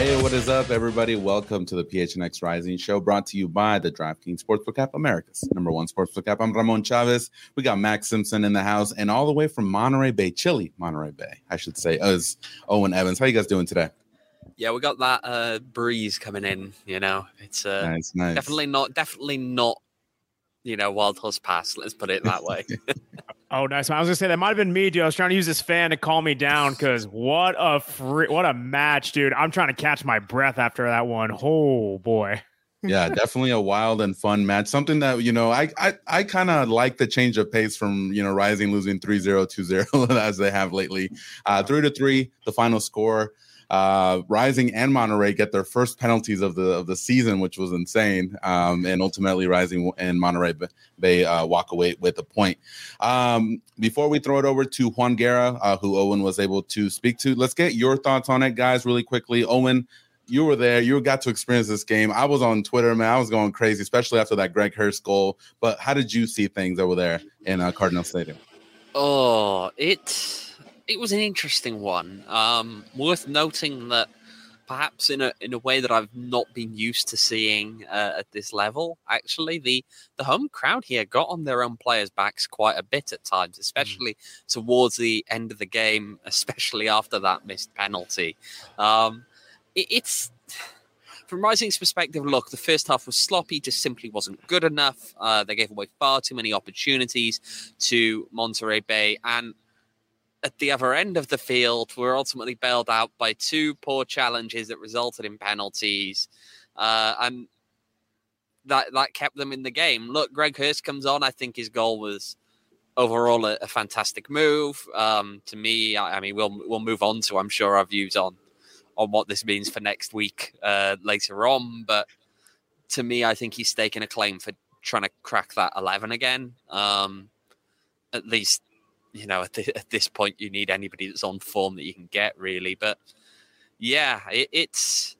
Hey, what is up, everybody? Welcome to the PHNX Rising Show, brought to you by the DraftKings Sportsbook app, America's #1 sportsbook app. I'm Ramon Chavez. We got Max Simpson in the house, and all the way from Monterey Bay, Chile, Monterey Bay, I should say, is Owen Evans. How you guys doing today? Yeah, we got that breeze coming in. You know, it's nice. definitely not. You know, Wild Horse Pass. Let's put it that way. Oh, nice. I was gonna say that might have been me, dude. I was trying to use this fan to calm me down because what a match, dude. I'm trying to catch my breath after that one. Oh boy. Yeah, definitely a wild and fun match. Something that, you know, I kind of like the change of pace from, you know, Rising losing 3-0, 2-0 as they have lately. 3-3, the final score. Rising and Monterey get their first penalties of the season, which was insane. And ultimately Rising and Monterey Bay walk away with a point. Before we throw it over to Juan Guerra, who Owen was able to speak to, let's get your thoughts on it, guys, really quickly. Owen, you were there. You got to experience this game. I was on Twitter, man. I was going crazy, especially after that Greg Hurst goal. But how did you see things over there in Cardinal Stadium? Oh, it was an interesting one. Worth noting that perhaps in a way that I've not been used to seeing at this level, actually, the home crowd here got on their own players' backs quite a bit at times, especially towards the end of the game, especially after that missed penalty. It's from Rising's perspective, look, the first half was sloppy, just simply wasn't good enough. They gave away far too many opportunities to Monterey Bay, and at the other end of the field, were ultimately bailed out by two poor challenges that resulted in penalties, and that kept them in the game. Look, Greg Hurst comes on. I think his goal was overall a fantastic move. To me, I mean, we'll move on to, I'm sure, our views on what this means for next week later on. But to me, I think he's staking a claim for trying to crack that 11 again. At least, you know, at this point, you need anybody that's on form that you can get, really. But yeah, it's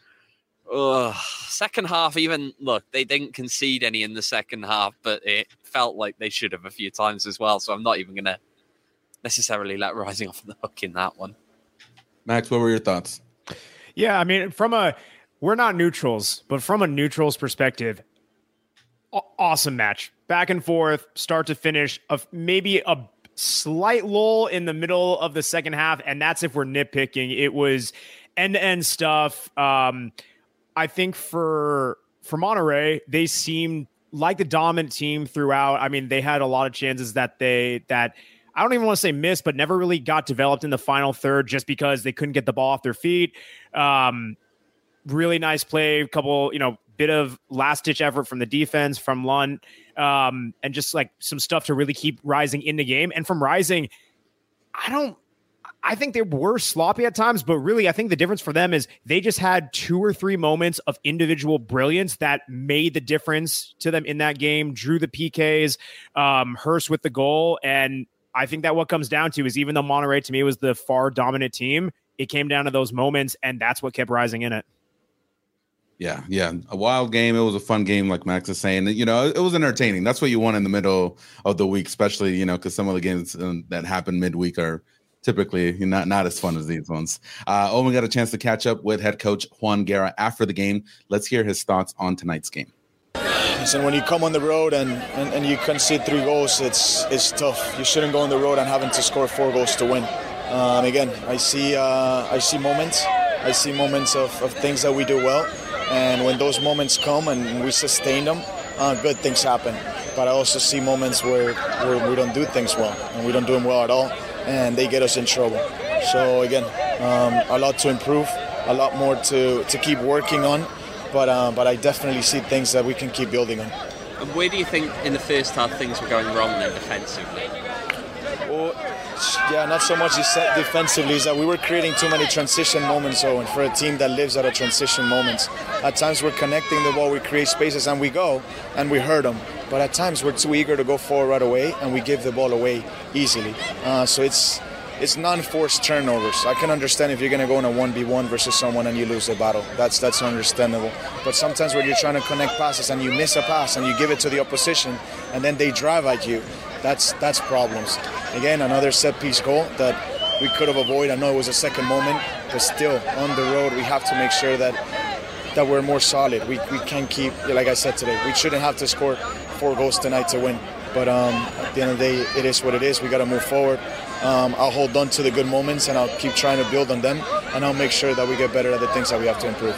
second half. Even look, they didn't concede any in the second half, but it felt like they should have a few times as well. So I'm not even going to necessarily let Rising off the hook in that one. Max, what were your thoughts? Yeah, I mean, we're not neutrals, but from a neutrals perspective, awesome match. Back and forth, start to finish, of maybe a slight lull in the middle of the second half, and that's if we're nitpicking. It was end-to-end stuff. I think for Monterey, they seemed like the dominant team throughout. I mean, they had a lot of chances that I don't even want to say missed, but never really got developed in the final third just because they couldn't get the ball off their feet. Really nice play, a couple, bit of last-ditch effort from the defense, from Lund, and just like some stuff to really keep Rising in the game. And from Rising, I think they were sloppy at times, but really I think the difference for them is they just had 2 or 3 moments of individual brilliance that made the difference to them in that game, drew the PKs, Hurst with the goal. And I think that what comes down to is, even though Monterey to me was the far dominant team, it came down to those moments, and that's what kept Rising in it. Yeah. A wild game. It was a fun game, like Max is saying. It was entertaining. That's what you want in the middle of the week, especially, because some of the games that happen midweek are typically not as fun as these ones. Owen got a chance to catch up with head coach Juan Guerra after the game. Let's hear his thoughts on tonight's game. So when you come on the road and you concede 3 goals, it's tough. You shouldn't go on the road and having to score 4 goals to win. Again, I see moments. I see moments of things that we do well, and when those moments come and we sustain them, good things happen. But I also see moments where we don't do things well, and we don't do them well at all, and they get us in trouble. So again, a lot to improve, a lot more to keep working on. But I definitely see things that we can keep building on. And where do you think in the first half things were going wrong then defensively? Well, yeah, not so much defensively, is that we were creating too many transition moments, Owen, for a team that lives out of transition moments. At times we're connecting the ball, we create spaces and we go and we hurt them. But at times we're too eager to go forward right away and we give the ball away easily. So it's non-forced turnovers. I can understand if you're going to go in a 1v1 versus someone and you lose the battle. That's understandable. But sometimes when you're trying to connect passes and you miss a pass and you give it to the opposition and then they drive at you, that's problems. Again, another set-piece goal that we could have avoided. I know it was a second moment, but still, on the road, we have to make sure that we're more solid. We can't keep, like I said today, we shouldn't have to score 4 goals tonight to win. But at the end of the day, it is what it is. We got to move forward. I'll hold on to the good moments, and I'll keep trying to build on them, and I'll make sure that we get better at the things that we have to improve.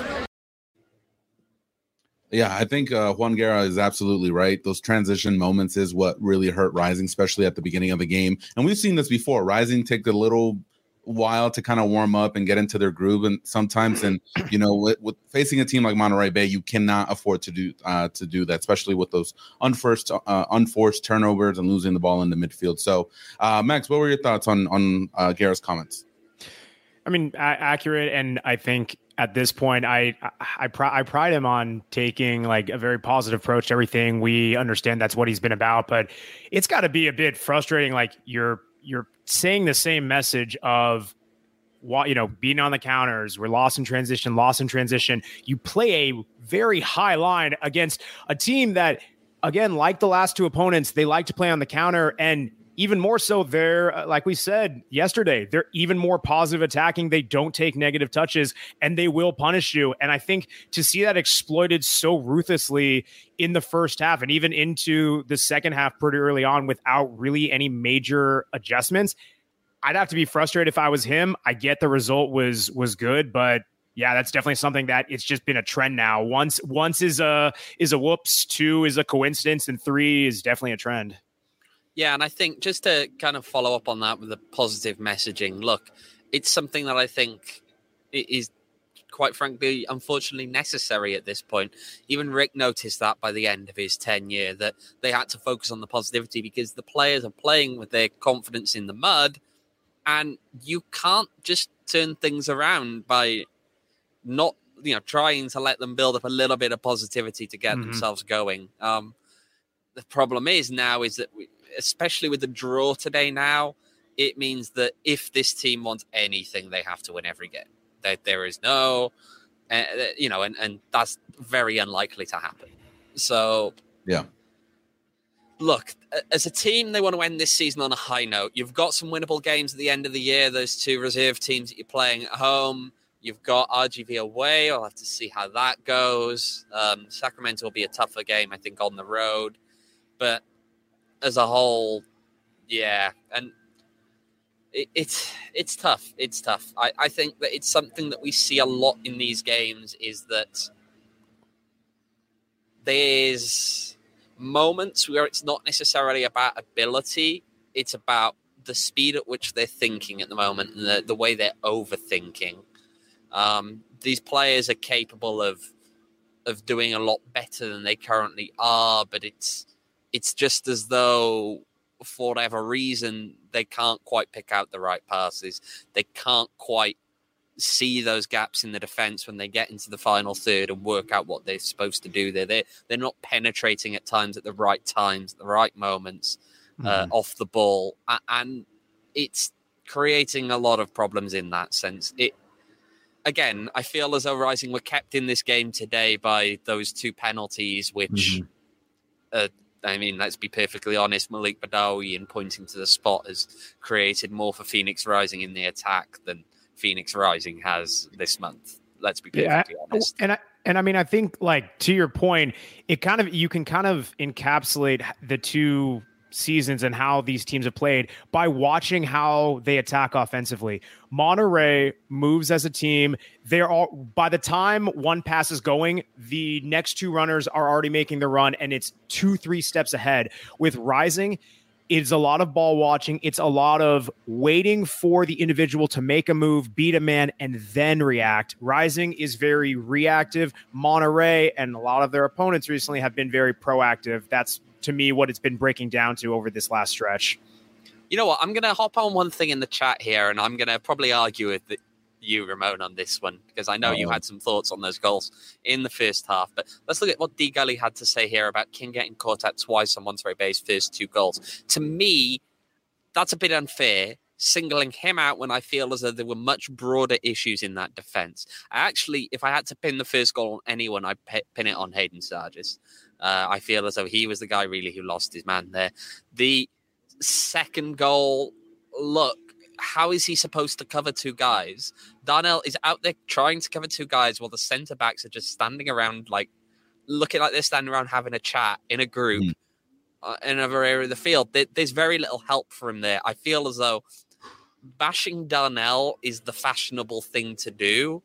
Yeah, I think Juan Guerra is absolutely right. Those transition moments is what really hurt Rising, especially at the beginning of the game. And we've seen this before. Rising take a little while to kind of warm up and get into their groove, and sometimes, and with facing a team like Monterey Bay, you cannot afford to do that, especially with those unforced turnovers and losing the ball in the midfield. So, Max, what were your thoughts on Guerra's comments? I mean, accurate, and I think at this point, I pride him on taking like a very positive approach to everything. We understand that's what he's been about, but it's got to be a bit frustrating. Like you're saying the same message of what, being on the counters. We're lost in transition. You play a very high line against a team that, again, like the last 2 opponents, they like to play on the counter, and even more so, they're, like we said yesterday, they're even more positive attacking. They don't take negative touches, and they will punish you. And I think to see that exploited so ruthlessly in the first half and even into the second half pretty early on without really any major adjustments, I'd have to be frustrated if I was him. I get the result was good, but yeah, that's definitely something that it's just been a trend now. Once is a whoops, 2 is a coincidence, and 3 is definitely a trend. Yeah, and I think just to kind of follow up on that with the positive messaging, look, it's something that I think is, quite frankly, unfortunately necessary at this point. Even Rick noticed that by the end of his tenure, that they had to focus on the positivity because the players are playing with their confidence in the mud, and you can't just turn things around by not, trying to let them build up a little bit of positivity to get themselves going. The problem is that especially with the draw today now, it means that if this team wants anything, they have to win every game. There is no, and that's very unlikely to happen. So, yeah. Look, as a team, they want to end this season on a high note. You've got some winnable games at the end of the year. Those 2 reserve teams that you're playing at home. You've got RGV away. I'll have to see how that goes. Sacramento will be a tougher game, I think, on the road. But as a whole, yeah, and it's tough. It's tough. I think that it's something that we see a lot in these games is that there's moments where it's not necessarily about ability. It's about the speed at which they're thinking at the moment and the way they're overthinking. These players are capable of doing a lot better than they currently are, but it's just as though, for whatever reason, they can't quite pick out the right passes. They can't quite see those gaps in the defense when they get into the final third and work out what they're supposed to do there. They're not penetrating at times at the right times, the right moments off the ball. And it's creating a lot of problems in that sense. Again, I feel as though Rising were kept in this game today by those 2 penalties, which... I mean, let's be perfectly honest, Malik Badawi, in pointing to the spot, has created more for Phoenix Rising in the attack than Phoenix Rising has this month. Let's be perfectly honest. And I mean, I think, like, to your point, you can kind of encapsulate the 2 seasons and how these teams have played by watching how they attack offensively. Monterey moves as a team. They're all, by the time one pass is going, the next 2 runners are already making the run, and it's 2-3 steps ahead. With Rising, it's a lot of ball watching. It's a lot of waiting for the individual to make a move, beat a man, and then react. Rising is very reactive. Monterey and a lot of their opponents recently have been very proactive. That's, to me, what it's been breaking down to over this last stretch. You know what? I'm going to hop on one thing in the chat here, and I'm going to probably argue with you, Ramon, on this one, because I know you had some thoughts on those goals in the first half. But let's look at what D. Gully had to say here about King getting caught out twice on Monterey Bay's first 2 goals. To me, that's a bit unfair, singling him out when I feel as though there were much broader issues in that defense. Actually, if I had to pin the first goal on anyone, I'd pin it on Hayden Sargis. I feel as though he was the guy really who lost his man there. The second goal, look, how is he supposed to cover two guys? Darnell is out there trying to cover two guys while the center backs are just standing around, like looking like they're standing around having a chat in a group in another area of the field. There's very little help for him there. I feel as though bashing Darnell is the fashionable thing to do,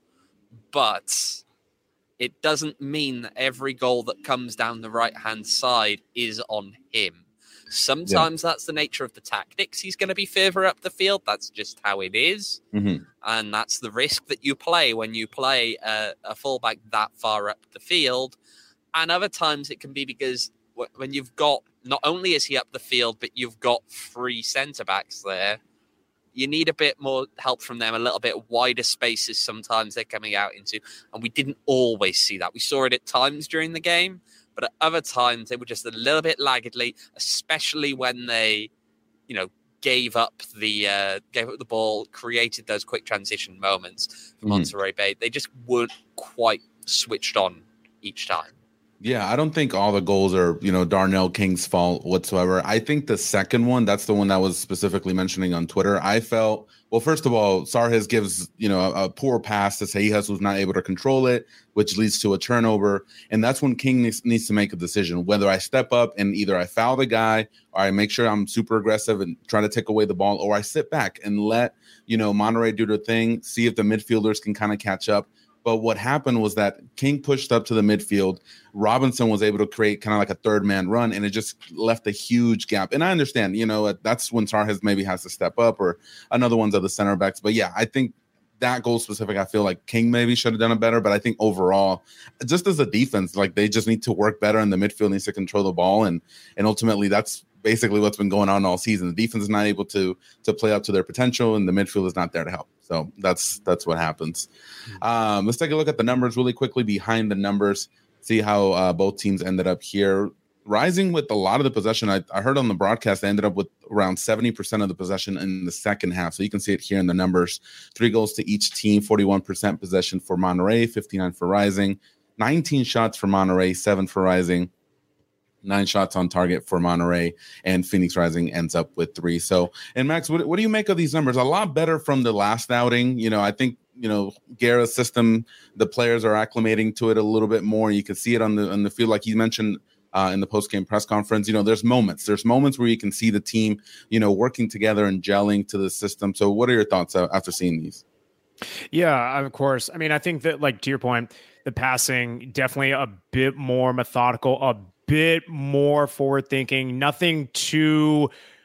but it doesn't mean that every goal that comes down the right-hand side is on him. Sometimes that's the nature of the tactics. He's going to be further up the field. That's just how it is. And that's the risk that you play when you play a fullback that far up the field. And other times it can be because when you've got, not only is he up the field, but you've got three centre-backs there, you need a bit more help from them, a little bit wider spaces sometimes they're coming out into. And we didn't always see that. We saw it at times during the game, but at other times they were just a little bit laggardly, especially when they, gave up the ball, created those quick transition moments for Monterey Bay. They just weren't quite switched on each time. Yeah, I don't think all the goals are, Darnell King's fault whatsoever. I think the second one, that's the one that was specifically mentioning on Twitter. I felt, well, first of all, Sarhis gives, a poor pass to Seijas, who's not able to control it, which leads to a turnover. And that's when King needs to make a decision, whether I step up and either I foul the guy or I make sure I'm super aggressive and try to take away the ball, or I sit back and let, Monterey do their thing, see if the midfielders can kind of catch up. But what happened was that King pushed up to the midfield. Robinson was able to create kind of like a third man run, and it just left a huge gap. And I understand, that's when Sarhis maybe has to step up, or another one's of the center backs. But yeah, I think that goal specific, I feel like King maybe should have done it better. But I think overall, just as a defense, like they just need to work better, and the midfield needs to control the ball. And ultimately, that's basically what's been going on all season. The defense is not able to play up to their potential, and the midfield is not there to help. So that's what happens. Let's take a look at the numbers really quickly behind the numbers, see how both teams ended up here. Rising with a lot of the possession. I heard on the broadcast they ended up with around 70% of the possession in the second half. So you can see it here in the numbers. 3 goals to each team, 41% possession for Monterey, 59 for Rising, 19 shots for Monterey, 7 for Rising. 9 shots on target for Monterey, and Phoenix Rising ends up with 3. So, and Max, what do you make of these numbers? A lot better from the last outing. I think, Guerra's system, the players are acclimating to it a little bit more. You can see it on the field, like you mentioned in the post-game press conference. There's moments where you can see the team, working together and gelling to the system. So what are your thoughts after seeing these? Yeah, of course. I mean, I think that, like, to your point, the passing definitely a bit more methodical, a bit more forward thinking, nothing too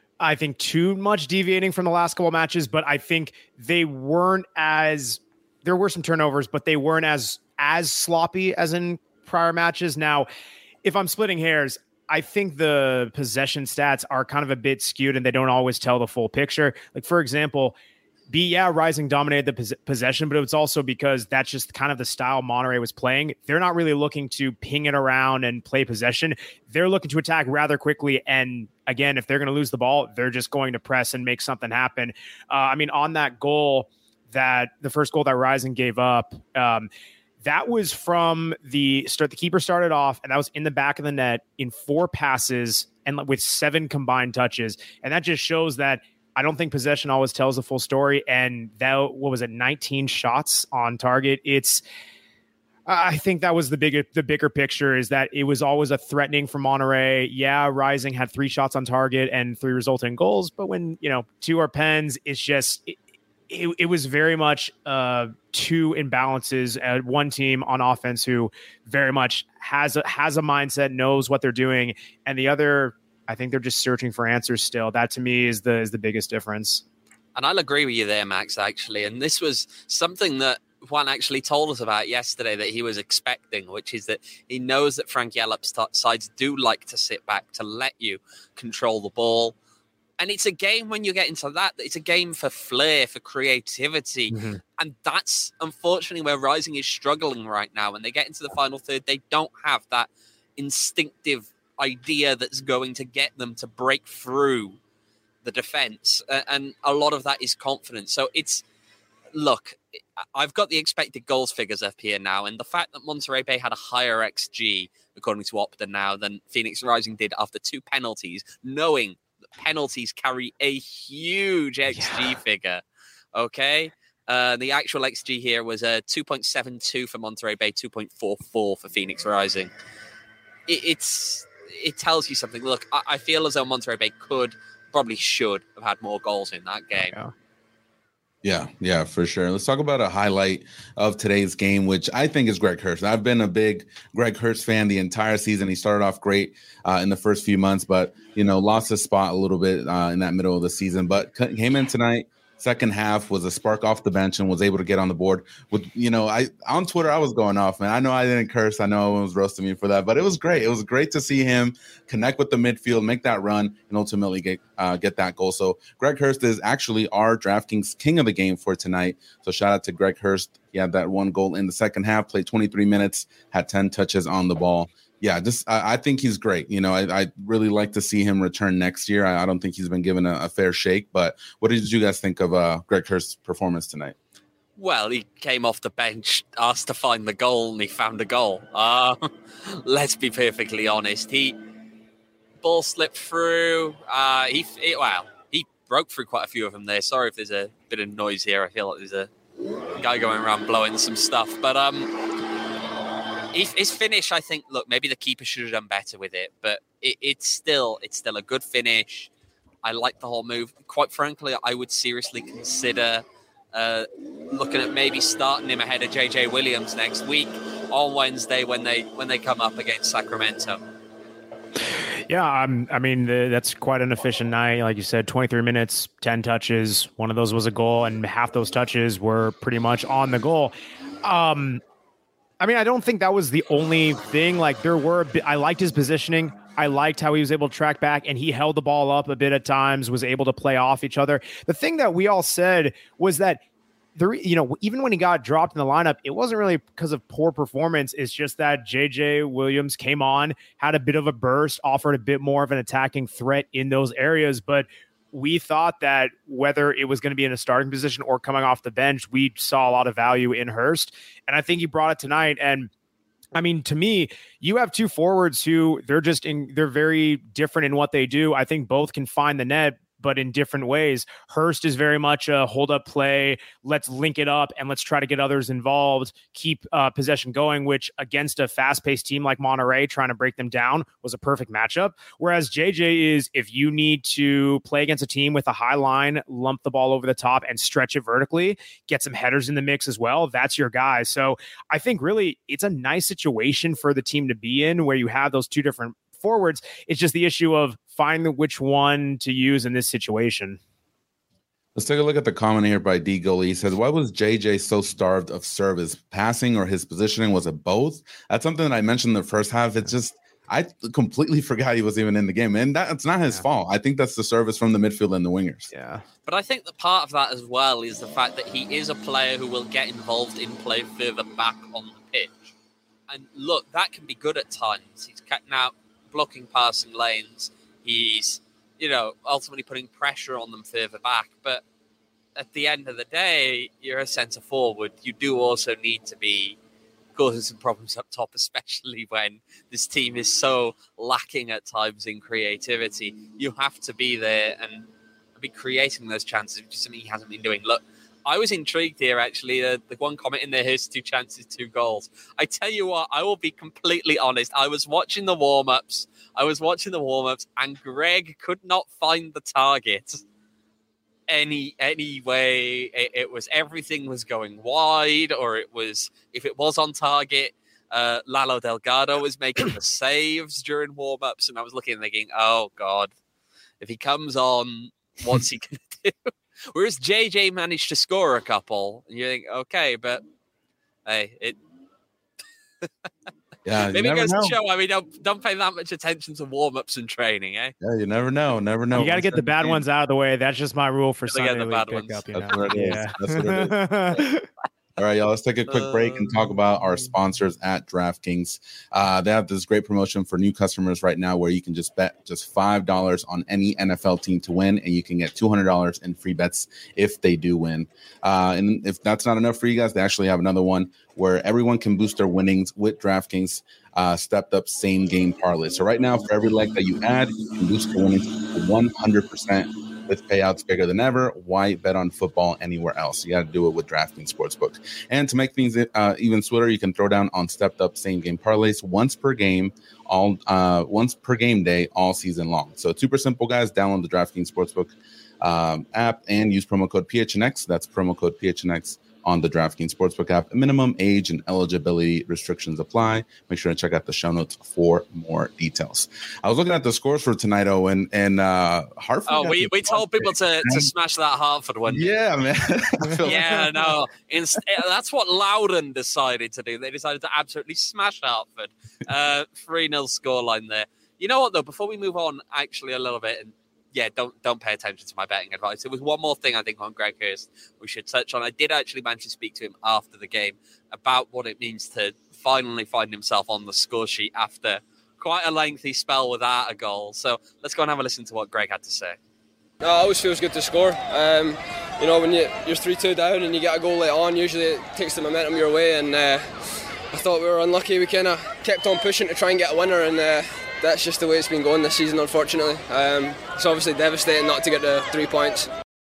much deviating from the last couple of matches, but I think there were some turnovers, but they weren't as sloppy as in prior matches. Now, if I'm splitting hairs, I think the possession stats are kind of a bit skewed and they don't always tell the full picture. Like, for example, Rising dominated the possession, but it was also because that's just kind of the style Monterey was playing. They're not really looking to ping it around and play possession. They're looking to attack rather quickly. And again, if they're going to lose the ball, they're just going to press and make something happen. On that goal, the first goal that Rising gave up, that was from the start. The keeper started off, and that was in the back of the net in 4 passes and with 7 combined touches. And that just shows that I don't think possession always tells the full story. And that, 19 shots on target. I think that was the bigger picture, is that it was always a threatening for Monterey. Yeah, Rising had 3 shots on target and 3 resulting goals. But when, 2 are pens, it's just, it was very much 2 imbalances. One team on offense who very much has a mindset, knows what they're doing. And the other, I think they're just searching for answers still. That to me is the biggest difference. And I'll agree with you there, Max, actually. And this was something that Juan actually told us about yesterday that he was expecting, which is that he knows that Frank Yallop's sides do like to sit back, to let you control the ball. And it's a game, when you get into that, it's a game for flair, for creativity. Mm-hmm. And that's unfortunately where Rising is struggling right now. When they get into the final third, they don't have that instinctive idea that's going to get them to break through the defense, and a lot of that is confidence. So I've got the expected goals figures up here now, and the fact that Monterey Bay had a higher XG according to Opta now than Phoenix Rising did after 2 penalties, knowing penalties carry a huge XG figure. Okay. The actual XG here was 2.72 for Monterey Bay, 2.44 for Phoenix Rising. It tells you something. Look, I feel as though Monterey Bay probably should have had more goals in that game. Yeah, for sure. Let's talk about a highlight of today's game, which I think is Greg Hurst. I've been a big Greg Hurst fan the entire season. He started off great in the first few months, but, lost his spot a little bit in that middle of the season, but came in tonight. Second half was a spark off the bench and was able to get on the board with, on Twitter, I was going off, man. I know I didn't curse. I know everyone was roasting me for that, but it was great. It was great to see him connect with the midfield, make that run, and ultimately get that goal. So Greg Hurst is actually our DraftKings king of the game for tonight. So shout out to Greg Hurst. He had that one goal in the second half, played 23 minutes, had 10 touches on the ball. Yeah, I think he's great. I really like to see him return next year. I don't think he's been given a fair shake. But what did you guys think of Greg Hurst's performance tonight? Well, he came off the bench, asked to find the goal, and he found a goal. Let's be perfectly honest. Ball slipped through. He broke through quite a few of them there. Sorry if there's a bit of noise here. I feel like there's a guy going around blowing some stuff. But his finish, I think, look, maybe the keeper should have done better with it, but it's still a good finish. I like the whole move. Quite frankly, I would seriously consider looking at maybe starting him ahead of JJ Williams next week on Wednesday when they come up against Sacramento. Yeah, that's quite an efficient night. Like you said, 23 minutes, 10 touches. One of those was a goal, and half those touches were pretty much on the goal. I don't think that was the only thing. Like I liked his positioning. I liked how he was able to track back, and he held the ball up a bit at times, was able to play off each other. The thing that we all said was that even when he got dropped in the lineup, it wasn't really because of poor performance. It's just that JJ Williams came on, had a bit of a burst, offered a bit more of an attacking threat in those areas, but we thought that whether it was going to be in a starting position or coming off the bench, we saw a lot of value in Hurst. And I think he brought it tonight. And to me, you have two forwards who they're very different in what they do. I think both can find the net, but in different ways. Hurst is very much a hold-up play, let's link it up, and let's try to get others involved, keep possession going, which against a fast-paced team like Monterey, trying to break them down, was a perfect matchup. Whereas JJ is, if you need to play against a team with a high line, lump the ball over the top and stretch it vertically, get some headers in the mix as well, that's your guy. So I think really it's a nice situation for the team to be in where you have those two different forwards. It's just the issue of finding which one to use in this situation. Let's take a look at the comment here by D Goalie. He says, why was JJ so starved of service? Passing or his positioning? Was it both? That's something that I mentioned in the first half. It's just, I completely forgot he was even in the game. And that's not his fault. I think that's the service from the midfield and the wingers. Yeah. But I think that part of that as well is the fact that he is a player who will get involved in play further back on the pitch. And look, that can be good at times. He's cutting out, blocking passing lanes. He's, ultimately putting pressure on them further back. But at the end of the day, you're a centre forward. You do also need to be causing some problems up top, especially when this team is so lacking at times in creativity. You have to be there and be creating those chances, which is something he hasn't been doing. Look, I was intrigued here, actually. The one comment in there, here's 2 chances, 2 goals. I tell you what, I will be completely honest. I was watching the warm-ups, and Greg could not find the target any way. Everything was going wide, or if it was on target, Lalo Delgado was making the saves during warm-ups, and I was looking and thinking, oh, God, if he comes on, what's he going to do? Whereas JJ managed to score a couple, and you think, okay, but hey, it maybe it goes to show. Don't pay that much attention to warm-ups and training, eh? Yeah, you never know. You got to get the bad ones out of the way. That's just my rule for Sunday the bad ones. pickup. That's what it is. All right, y'all, let's take a quick break and talk about our sponsors at DraftKings. They have this great promotion for new customers right now where you can just bet just $5 on any NFL team to win, and you can get $200 in free bets if they do win. And if that's not enough for you guys, they actually have another one where everyone can boost their winnings with DraftKings stepped up same game parlay. So right now, for every leg that you add, you can boost your winnings to 100%. With payouts bigger than ever. Why bet on football anywhere else? You got to do it with DraftKings Sportsbook. And to make things even sweeter, you can throw down on stepped up same game parlays once per game day all season long. So it's super simple, guys. Download the DraftKings Sportsbook app and use promo code PHNX. That's promo code PHNX on the DraftKings Sportsbook app. Minimum age and eligibility restrictions apply. Make sure to check out the show notes for more details. I was looking at the scores for tonight, Owen, and Hartford. Oh, we told people to smash that Hartford one. Yeah, man. Yeah, no. That's what Loudon decided to do. They decided to absolutely smash Hartford. 3-0 scoreline there. You know what, though? Before we move on, actually, a little bit, and yeah, don't pay attention to my betting advice. There was one more thing I think on Greg Hurst we should touch on. I did actually manage to speak to him after the game about what it means to finally find himself on the score sheet after quite a lengthy spell without a goal. So let's go and have a listen to what Greg had to say. No, it always feels good to score. You know, when you're 3-2 down and you get a goal late on, usually it takes the momentum your way. And I thought we were unlucky. We kind of kept on pushing to try and get a winner, and that's just the way it's been going this season, unfortunately. It's obviously devastating not to get the 3 points.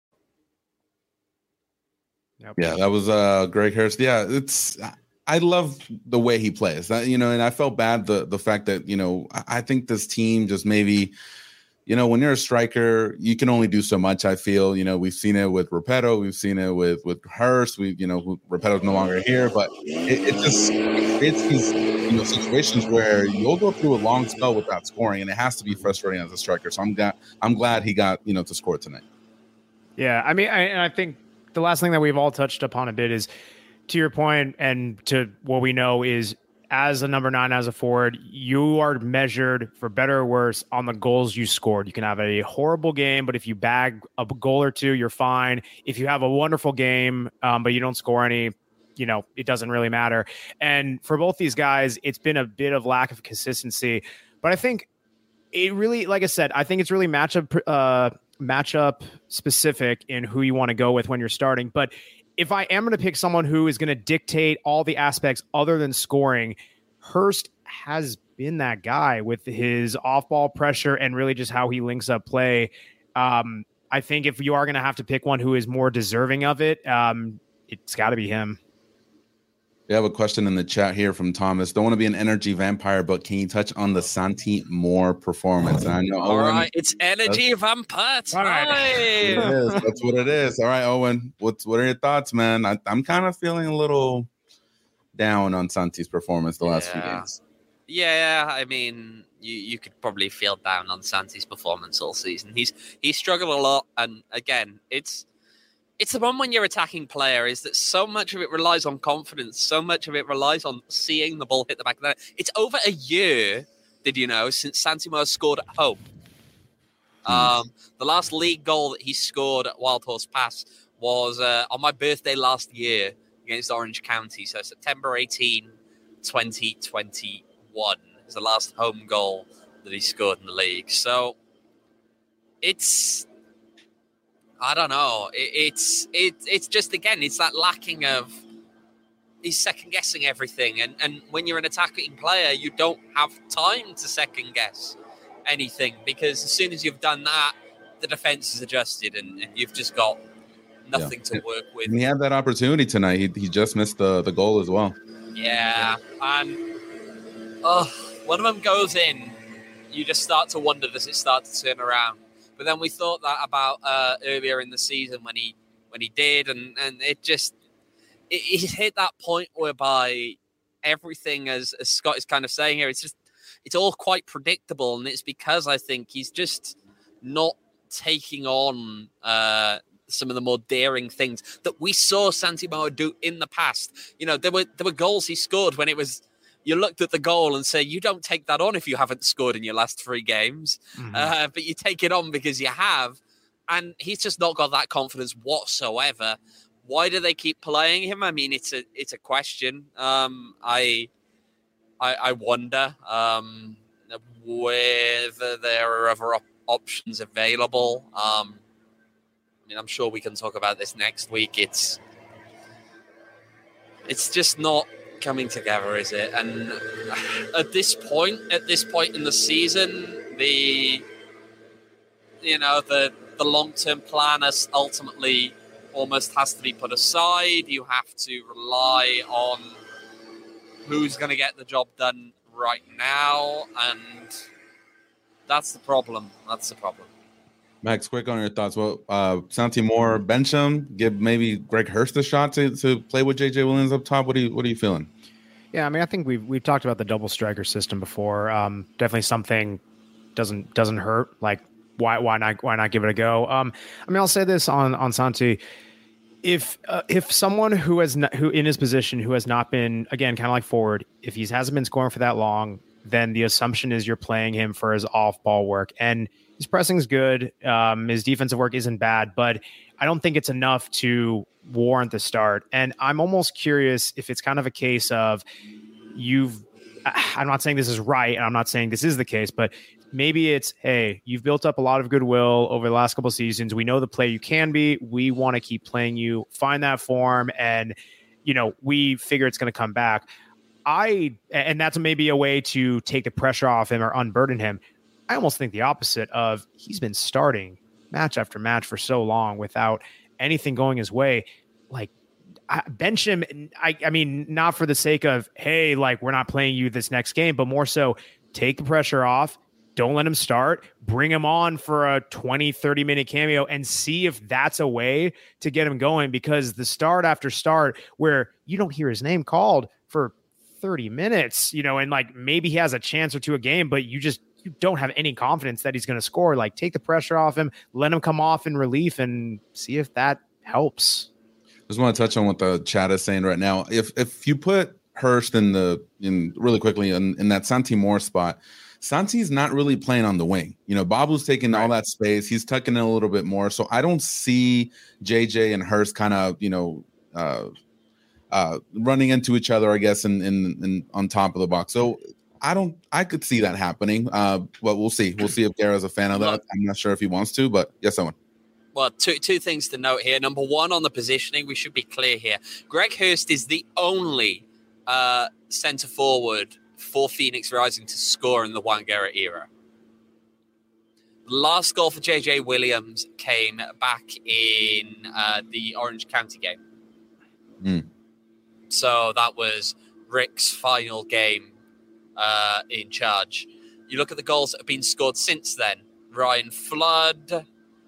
Yep. Yeah, that was Greg Hurst. Yeah, I love the way he plays. And I felt bad the fact that, I think this team just maybe, when you're a striker, you can only do so much, I feel. We've seen it with Repetto. We've seen it with Hurst. Repetto's no longer here, but it's these situations where you'll go through a long spell without scoring, and it has to be frustrating as a striker. So I'm glad he got to score tonight. Yeah, I mean, I think the last thing that we've all touched upon a bit is, to your point and to what we know, is as a number 9, as a forward, you are measured, for better or worse, on the goals you scored. You can have a horrible game, but if you bag a goal or two, you're fine. If you have a wonderful game, but you don't score any, it doesn't really matter. And for both these guys, it's been a bit of lack of consistency. But I think it really, like I said, I think it's really matchup specific in who you want to go with when you're starting. But if I am going to pick someone who is going to dictate all the aspects other than scoring, Hurst has been that guy with his off-ball pressure and really just how he links up play. I think if you are going to have to pick one who is more deserving of it, it's got to be him. We have a question in the chat here from Thomas. Don't want to be an energy vampire, but can you touch on the Santi Moore performance? And I know, all Owen, right, it's energy vampire time. It is. That's what it is. All right, Owen, what are your thoughts, man? I'm kind of feeling a little down on Santi's performance the last few games. Yeah, I mean, you could probably feel down on Santi's performance all season. He's struggled a lot, and again, it's the one when you're attacking player is that so much of it relies on confidence. So much of it relies on seeing the ball hit the back of the net. It's over a year, did you know, since Santi Moore scored at home. The last league goal that he scored at Wild Horse Pass was on my birthday last year against Orange County. So September 18, 2021 is the last home goal that he scored in the league. So it's... I don't know. It's just, again, it's that lacking of, he's second guessing everything. And when you're an attacking player, you don't have time to second guess anything, because as soon as you've done that, the defense is adjusted and you've just got nothing to work with. And he had that opportunity tonight. He just missed the goal as well. Yeah. And when one of them goes in, you just start to wonder, does it start to turn around? But then we thought that about earlier in the season when he did, and it hit that point whereby everything, as Scott is kind of saying here, it's all quite predictable, and it's because I think he's just not taking on some of the more daring things that we saw Santi Moore do in the past. There were goals he scored when it was, you looked at the goal and say, you don't take that on if you haven't scored in your last 3 games. Mm-hmm. But you take it on because you have. And he's just not got that confidence whatsoever. Why do they keep playing him? I mean, it's a question. I wonder whether there are other options available. I mean, I'm sure we can talk about this next week. It's just not coming together, is it? And at this point in the season, the long-term plan is ultimately almost has to be put aside. You have to rely on who's going to get the job done right now, and that's the problem. Max, quick on your thoughts. Well, Santi Moore, bench him, give maybe Greg Hurst a shot to play with JJ Williams up top. What are you feeling? Yeah, I mean, I think we've talked about the double striker system before. Definitely something doesn't hurt. Like, why not give it a go? I mean, I'll say this on Santi. If someone who in his position who has not been, again, kind of like forward, if he hasn't been scoring for that long, then the assumption is you're playing him for his off ball work. And his pressing is good. His defensive work isn't bad, but I don't think it's enough to warrant the start. And I'm almost curious if it's kind of a case of I'm not saying this is right, and I'm not saying this is the case, but maybe it's, hey, you've built up a lot of goodwill over the last couple of seasons. We know the player you can be. We want to keep playing you, find that form, and we figure it's going to come back. And that's maybe a way to take the pressure off him or unburden him. I almost think the opposite of he's been starting match after match for so long without anything going his way. Like, bench him. I mean, not for the sake of, hey, like, we're not playing you this next game, but more so take the pressure off. Don't let him start. Bring him on for a 20, 30-minute cameo and see if that's a way to get him going, because the start after start where you don't hear his name called for 30 minutes, and like maybe he has a chance or two a game, but you don't have any confidence that he's going to score. Like, take the pressure off him, let him come off in relief and see if that helps. Just want to touch on what the chat is saying right now. If you put Hurst in really quickly in that Santi Moore spot, Santi's not really playing on the wing. Babu's taking all that space. He's tucking in a little bit more. So I don't see JJ and Hurst kind of, running into each other, I guess, in on top of the box. So I could see that happening. But we'll see. We'll see if Guerra's a fan of that. I'm not sure if he wants to, but yes, someone. Well, two things to note here. Number one, on the positioning, we should be clear here. Greg Hurst is the only center forward for Phoenix Rising to score in the Juan Guerra era. The last goal for JJ Williams came back in the Orange County game. So that was Rick's final game in charge. You look at the goals that have been scored since then. Ryan Flood,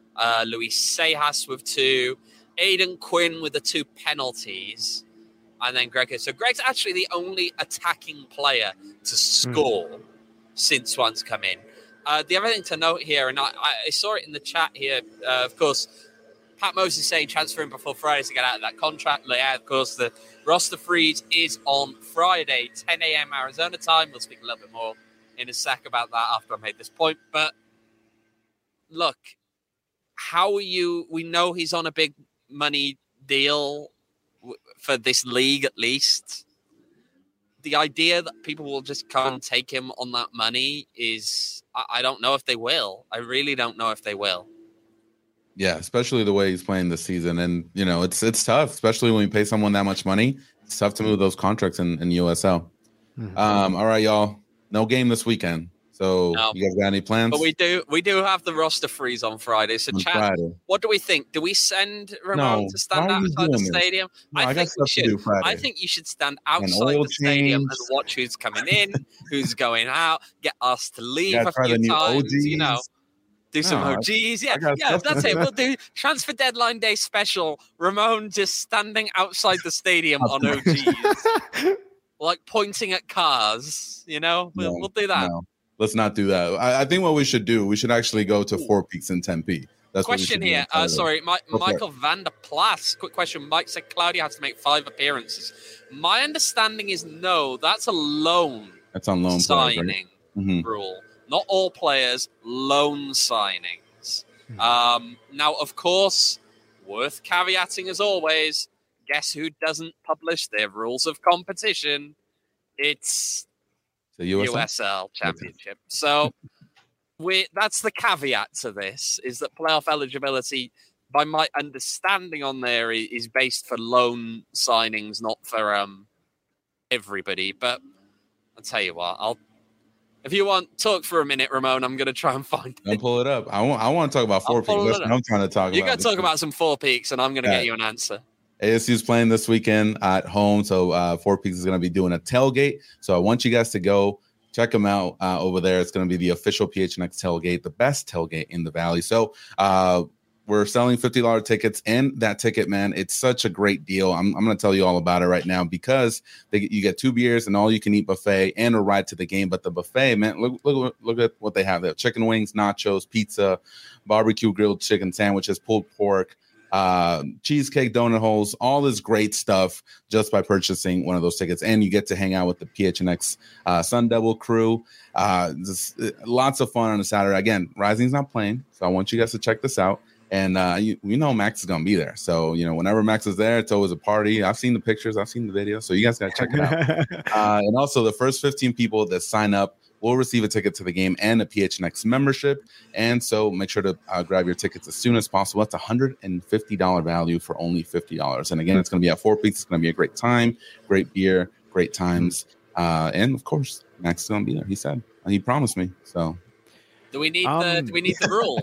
Luis Sejas with 2, Aidan Quinn with the 2 penalties, and then Greg. So Greg's actually the only attacking player to score since Juan's come in. The other thing to note here, and I saw it in the chat here, of course, Pat Moses saying transfer him before Friday to get out of that contract. Yeah, of course, the roster freeze is on Friday, 10 a.m. Arizona time. We'll speak a little bit more in a sec about that after I made this point. But look, how are you? We know he's on a big money deal for this league, at least. The idea that people will just come and take him on that money is, I don't know if they will. I really don't know if they will. Yeah, especially the way he's playing this season. And, it's tough, especially when you pay someone that much money. It's tough to move those contracts in USL. All right, y'all. No game this weekend. So you guys got any plans? But we do have the roster freeze on Friday. So chat, what do we think? Do we send Ramon to stand outside the stadium? No, I think we should. I think you should stand outside the stadium and watch who's coming in, who's going out, get us to leave a few times, OGs. Do some OGs. Yeah, that's it. We'll do transfer deadline day special. Ramon just standing outside the stadium on OGs. Like pointing at cars, we'll do that. No. Let's not do that. I think what we should do, we should actually go to Four Peaks in Tempe. That's question here. Michael Van der Plas. Quick question. Mike said Claudia has to make 5 appearances. My understanding is no. That's a loan. That's on loan signing rule. Not all players, loan signings. Now, of course, worth caveating as always, guess who doesn't publish their rules of competition? It's The USL Championship. So that's the caveat to this, is that playoff eligibility, by my understanding on there, is based for loan signings, not for everybody. But I'll tell you what, if you want, talk for a minute, Ramon. I'm going to try and find it. I'll pull it up. I want to talk about Four Peaks. That's what I'm trying to talk about. You got to talk about some Four Peaks, and I'm going to get you an answer. ASU's playing this weekend at home, so Four Peaks is going to be doing a tailgate. So I want you guys to go check them out over there. It's going to be the official PHNX tailgate, the best tailgate in the Valley. So we're selling $50 tickets, and that ticket, man, it's such a great deal. I'm going to tell you all about it right now, because you get 2 beers and all you can eat buffet and a ride to the game. But the buffet, man, look at what they have there: chicken wings, nachos, pizza, barbecue grilled chicken sandwiches, pulled pork, cheesecake, donut holes, all this great stuff just by purchasing one of those tickets. And you get to hang out with the PHNX Sun Devil crew. Just lots of fun on a Saturday. Again, Rising's not playing, so I want you guys to check this out. And we know Max is going to be there. So, whenever Max is there, it's always a party. I've seen the pictures. I've seen the video. So you guys got to check it out. And also, the first 15 people that sign up will receive a ticket to the game and a PHNX membership. And so make sure to grab your tickets as soon as possible. That's $150 value for only $50. And again, it's going to be at Four Peaks. It's going to be a great time, great beer, great times. And of course, Max is going to be there. He said, he promised me. So do we need the rule?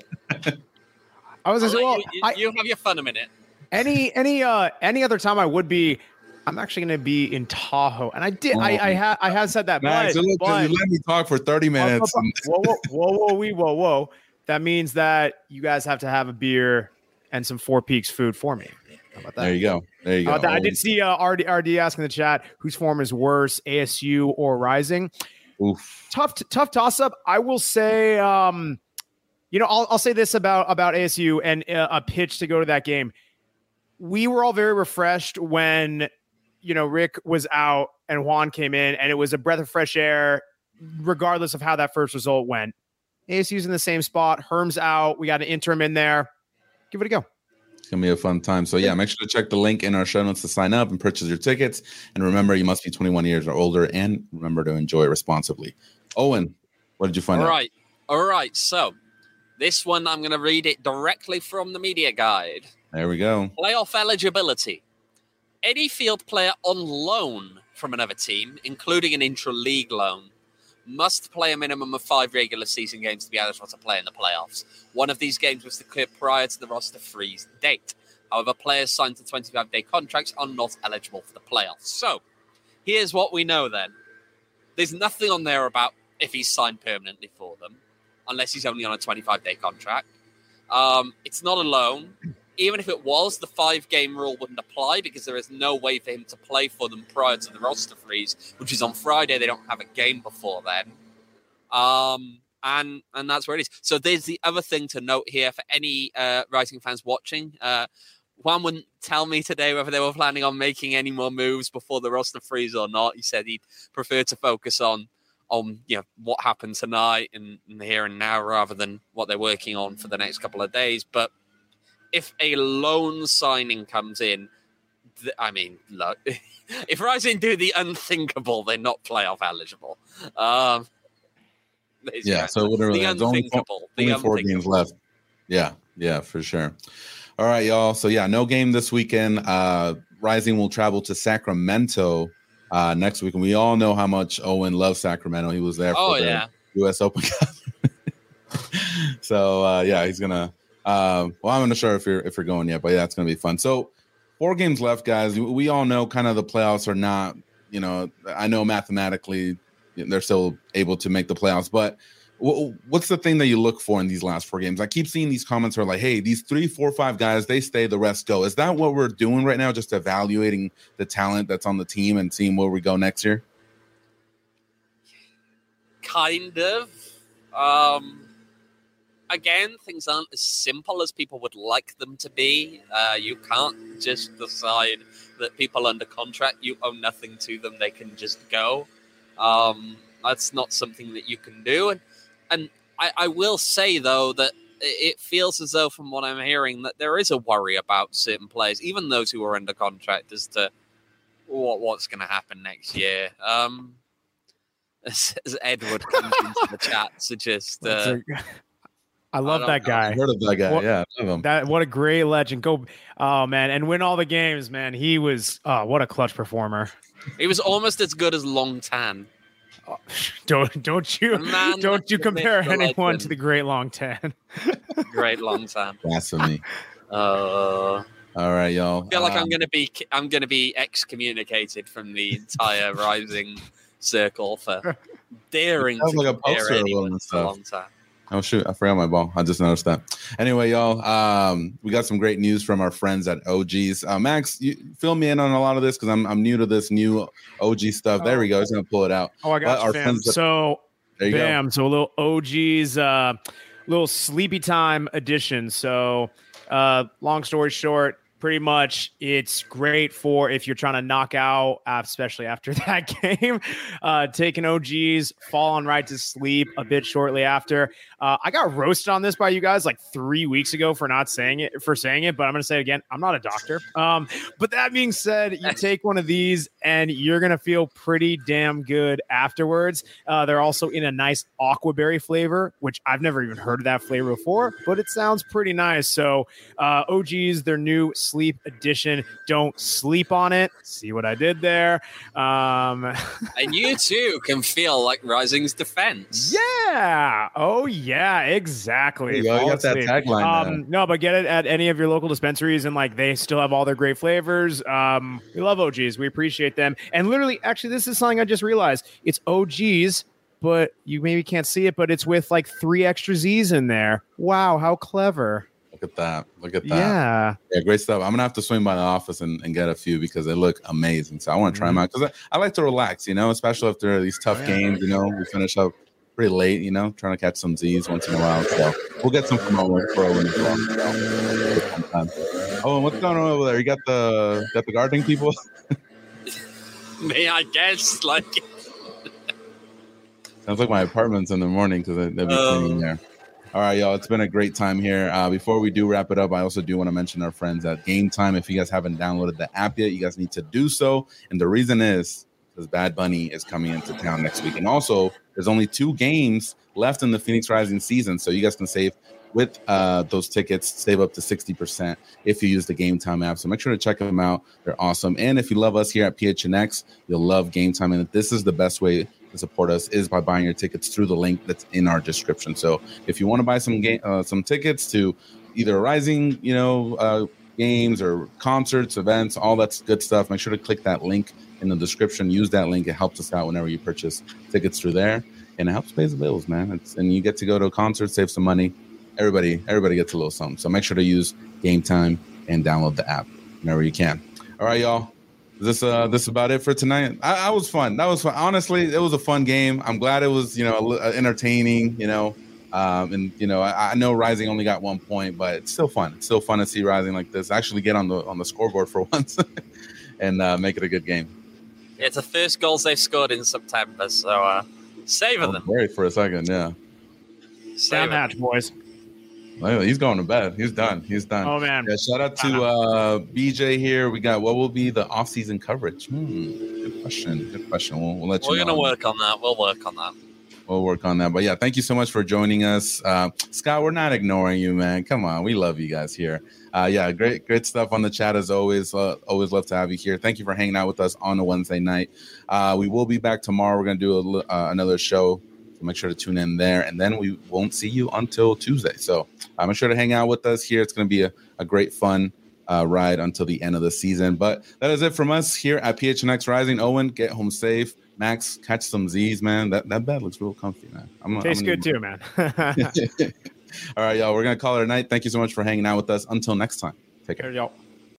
I was going to say, well, you have your fun a minute. Any other time I'm actually going to be in Tahoe, and I have said that. Max, but you let me talk for 30 minutes. Whoa. That means that you guys have to have a beer and some Four Peaks food for me. How about that? There you go. I did see RD asking in the chat whose form is worse, ASU or Rising. Oof. Tough toss up. I will say, I'll say this about ASU and a pitch to go to that game. We were all very refreshed when, Rick was out and Juan came in, and it was a breath of fresh air, regardless of how that first result went. ASU's in the same spot. Herm's out. We got an interim in there. Give it a go. It's going to be a fun time. So, yeah, make sure to check the link in our show notes to sign up and purchase your tickets. And remember, you must be 21 years or older, and remember to enjoy responsibly. Owen, what did you find out? All right. So this one, I'm going to read it directly from the media guide. There we go. Playoff eligibility. Any field player on loan from another team, including an intra-league loan, must play a minimum of 5 regular season games to be eligible to play in the playoffs. One of these games was declared prior to the roster freeze date. However, players signed to 25-day contracts are not eligible for the playoffs. So, here's what we know then. There's nothing on there about if he's signed permanently for them, unless he's only on a 25-day contract. It's not a loan. Even if it was, the 5-game rule wouldn't apply because there is no way for him to play for them prior to the roster freeze, which is on Friday. They don't have a game before then. And that's where it is. So there's the other thing to note here for any Rising fans watching. Juan wouldn't tell me today whether they were planning on making any more moves before the roster freeze or not. He said he'd prefer to focus on what happened tonight and the here and now rather than what they're working on for the next couple of days. But if a loan signing comes in, look, if Rising do the unthinkable, they're not playoff eligible. So whatever. The unthinkable. Only 4 games left. Yeah, for sure. All right, y'all. So, no game this weekend. Rising will travel to Sacramento next week. And we all know how much Owen loves Sacramento. He was there for the U.S. Open Cup. So, he's going to I'm not sure if you're going yet, but it's going to be fun. So 4 games left, guys. We all know kind of the playoffs are not, I know mathematically they're still able to make the playoffs, but what's the thing that you look for in these last 4 games? I keep seeing these comments are like, hey, these 3, 4, 5 guys, they stay, the rest go. Is that what we're doing right now? Just evaluating the talent that's on the team and seeing where we go next year? Kind of. Again, things aren't as simple as people would like them to be. You can't just decide that people under contract, you owe nothing to them, they can just go. That's not something that you can do. And I will say, though, that it feels as though, from what I'm hearing, that there is a worry about certain players, even those who are under contract, as to what's going to happen next year. As Edward comes into the chat to just... I love that guy. I've heard of that guy. I love him. What a great legend. Oh, man. And win all the games, man. He was, what a clutch performer. He was almost as good as Long Tan. Don't you compare anyone to the great Long Tan. Great Long Tan. Blasphemy. All right, y'all. I feel like I'm gonna be excommunicated from the entire Rising circle for daring to compare anyone to Long Tan. Oh, shoot. I forgot my ball. I just noticed that. Anyway, y'all, we got some great news from our friends at OGs. Max, you fill me in on a lot of this because I'm new to this new OG stuff. There we go. I was going to pull it out. Oh, I got you, fam. So, bam. Go. So, a little OGs, little sleepy time edition. So, long story short, pretty much it's great for if you're trying to knock out, especially after that game, taking OGs, falling right to sleep a bit shortly after. I got roasted on this by you guys like 3 weeks ago for saying it, but I'm going to say it again. I'm not a doctor. But that being said, you take one of these and you're going to feel pretty damn good afterwards. They're also in a nice aquaberry flavor, which I've never even heard of that flavor before, but it sounds pretty nice. So OGs, their new sleep edition. Don't sleep on it. See what I did there? And you too can feel like Rising's defense. Yeah. Oh yeah, exactly. You got that tagline. No, but get it at any of your local dispensaries, and like they still have all their great flavors. We love OGs. We appreciate them. And literally, actually, this is something I just realized. It's OGs, but you maybe can't see it, but it's with like 3 extra Z's in there. Wow, how clever. Look at that. Yeah, great stuff. I'm gonna have to swing by the office and get a few because they look amazing. So I want to try them out because I like to relax, especially after these tough games. We finish up pretty late, trying to catch some Z's once in a while. So we'll get some from our pro as well. Oh, and what's going on over there? You got the gardening people? Me, I guess. Like sounds like my apartment's in the morning because they'll be cleaning there. All right, y'all. It's been a great time here. Before we do wrap it up, I also do want to mention our friends at Game Time. If you guys haven't downloaded the app yet, you guys need to do so. And the reason is because Bad Bunny is coming into town next week. And also, there's only 2 games left in the Phoenix Rising season. So you guys can save with those tickets, save up to 60% if you use the Game Time app. So make sure to check them out. They're awesome. And if you love us here at PHNX, you'll love Game Time. And this is the best way to support us is by buying your tickets through the link that's in our description. So if you want to buy some tickets to either Rising, games or concerts, events, all that good stuff, make sure to click that link in the description. Use that link. It helps us out whenever you purchase tickets through there, and it helps pay the bills, man. And you get to go to a concert, save some money. Everybody gets a little something. So make sure to use Game Time and download the app whenever you can. All right, y'all. Is this about it for tonight? I was fun. That was fun. Honestly, it was a fun game. I'm glad it was, entertaining, I know Rising only got 1 point, but it's still fun. It's still fun to see Rising like this actually get on the scoreboard for once and make it a good game. It's the first goals they've scored in September, so savor them. Wait for a second, yeah. Down match, boys. He's going to bed. He's done. Oh, man. Yeah, shout out to BJ here. We got what will be the off-season coverage? Good question. We'll let you know. We're going to work on that. We'll work on that. But, yeah, thank you so much for joining us. Scott, we're not ignoring you, man. Come on. We love you guys here. Great stuff on the chat as always. Always love to have you here. Thank you for hanging out with us on a Wednesday night. We will be back tomorrow. We're going to do another show. So make sure to tune in there, and then we won't see you until Tuesday. So make sure to hang out with us here. It's going to be a great, fun ride until the end of the season. But that is it from us here at PHNX Rising. Owen, get home safe. Max, catch some Z's, man. That bed looks real comfy, man. Tastes good too, man. All right, y'all. We're going to call it a night. Thank you so much for hanging out with us. Until next time. Take care, y'all.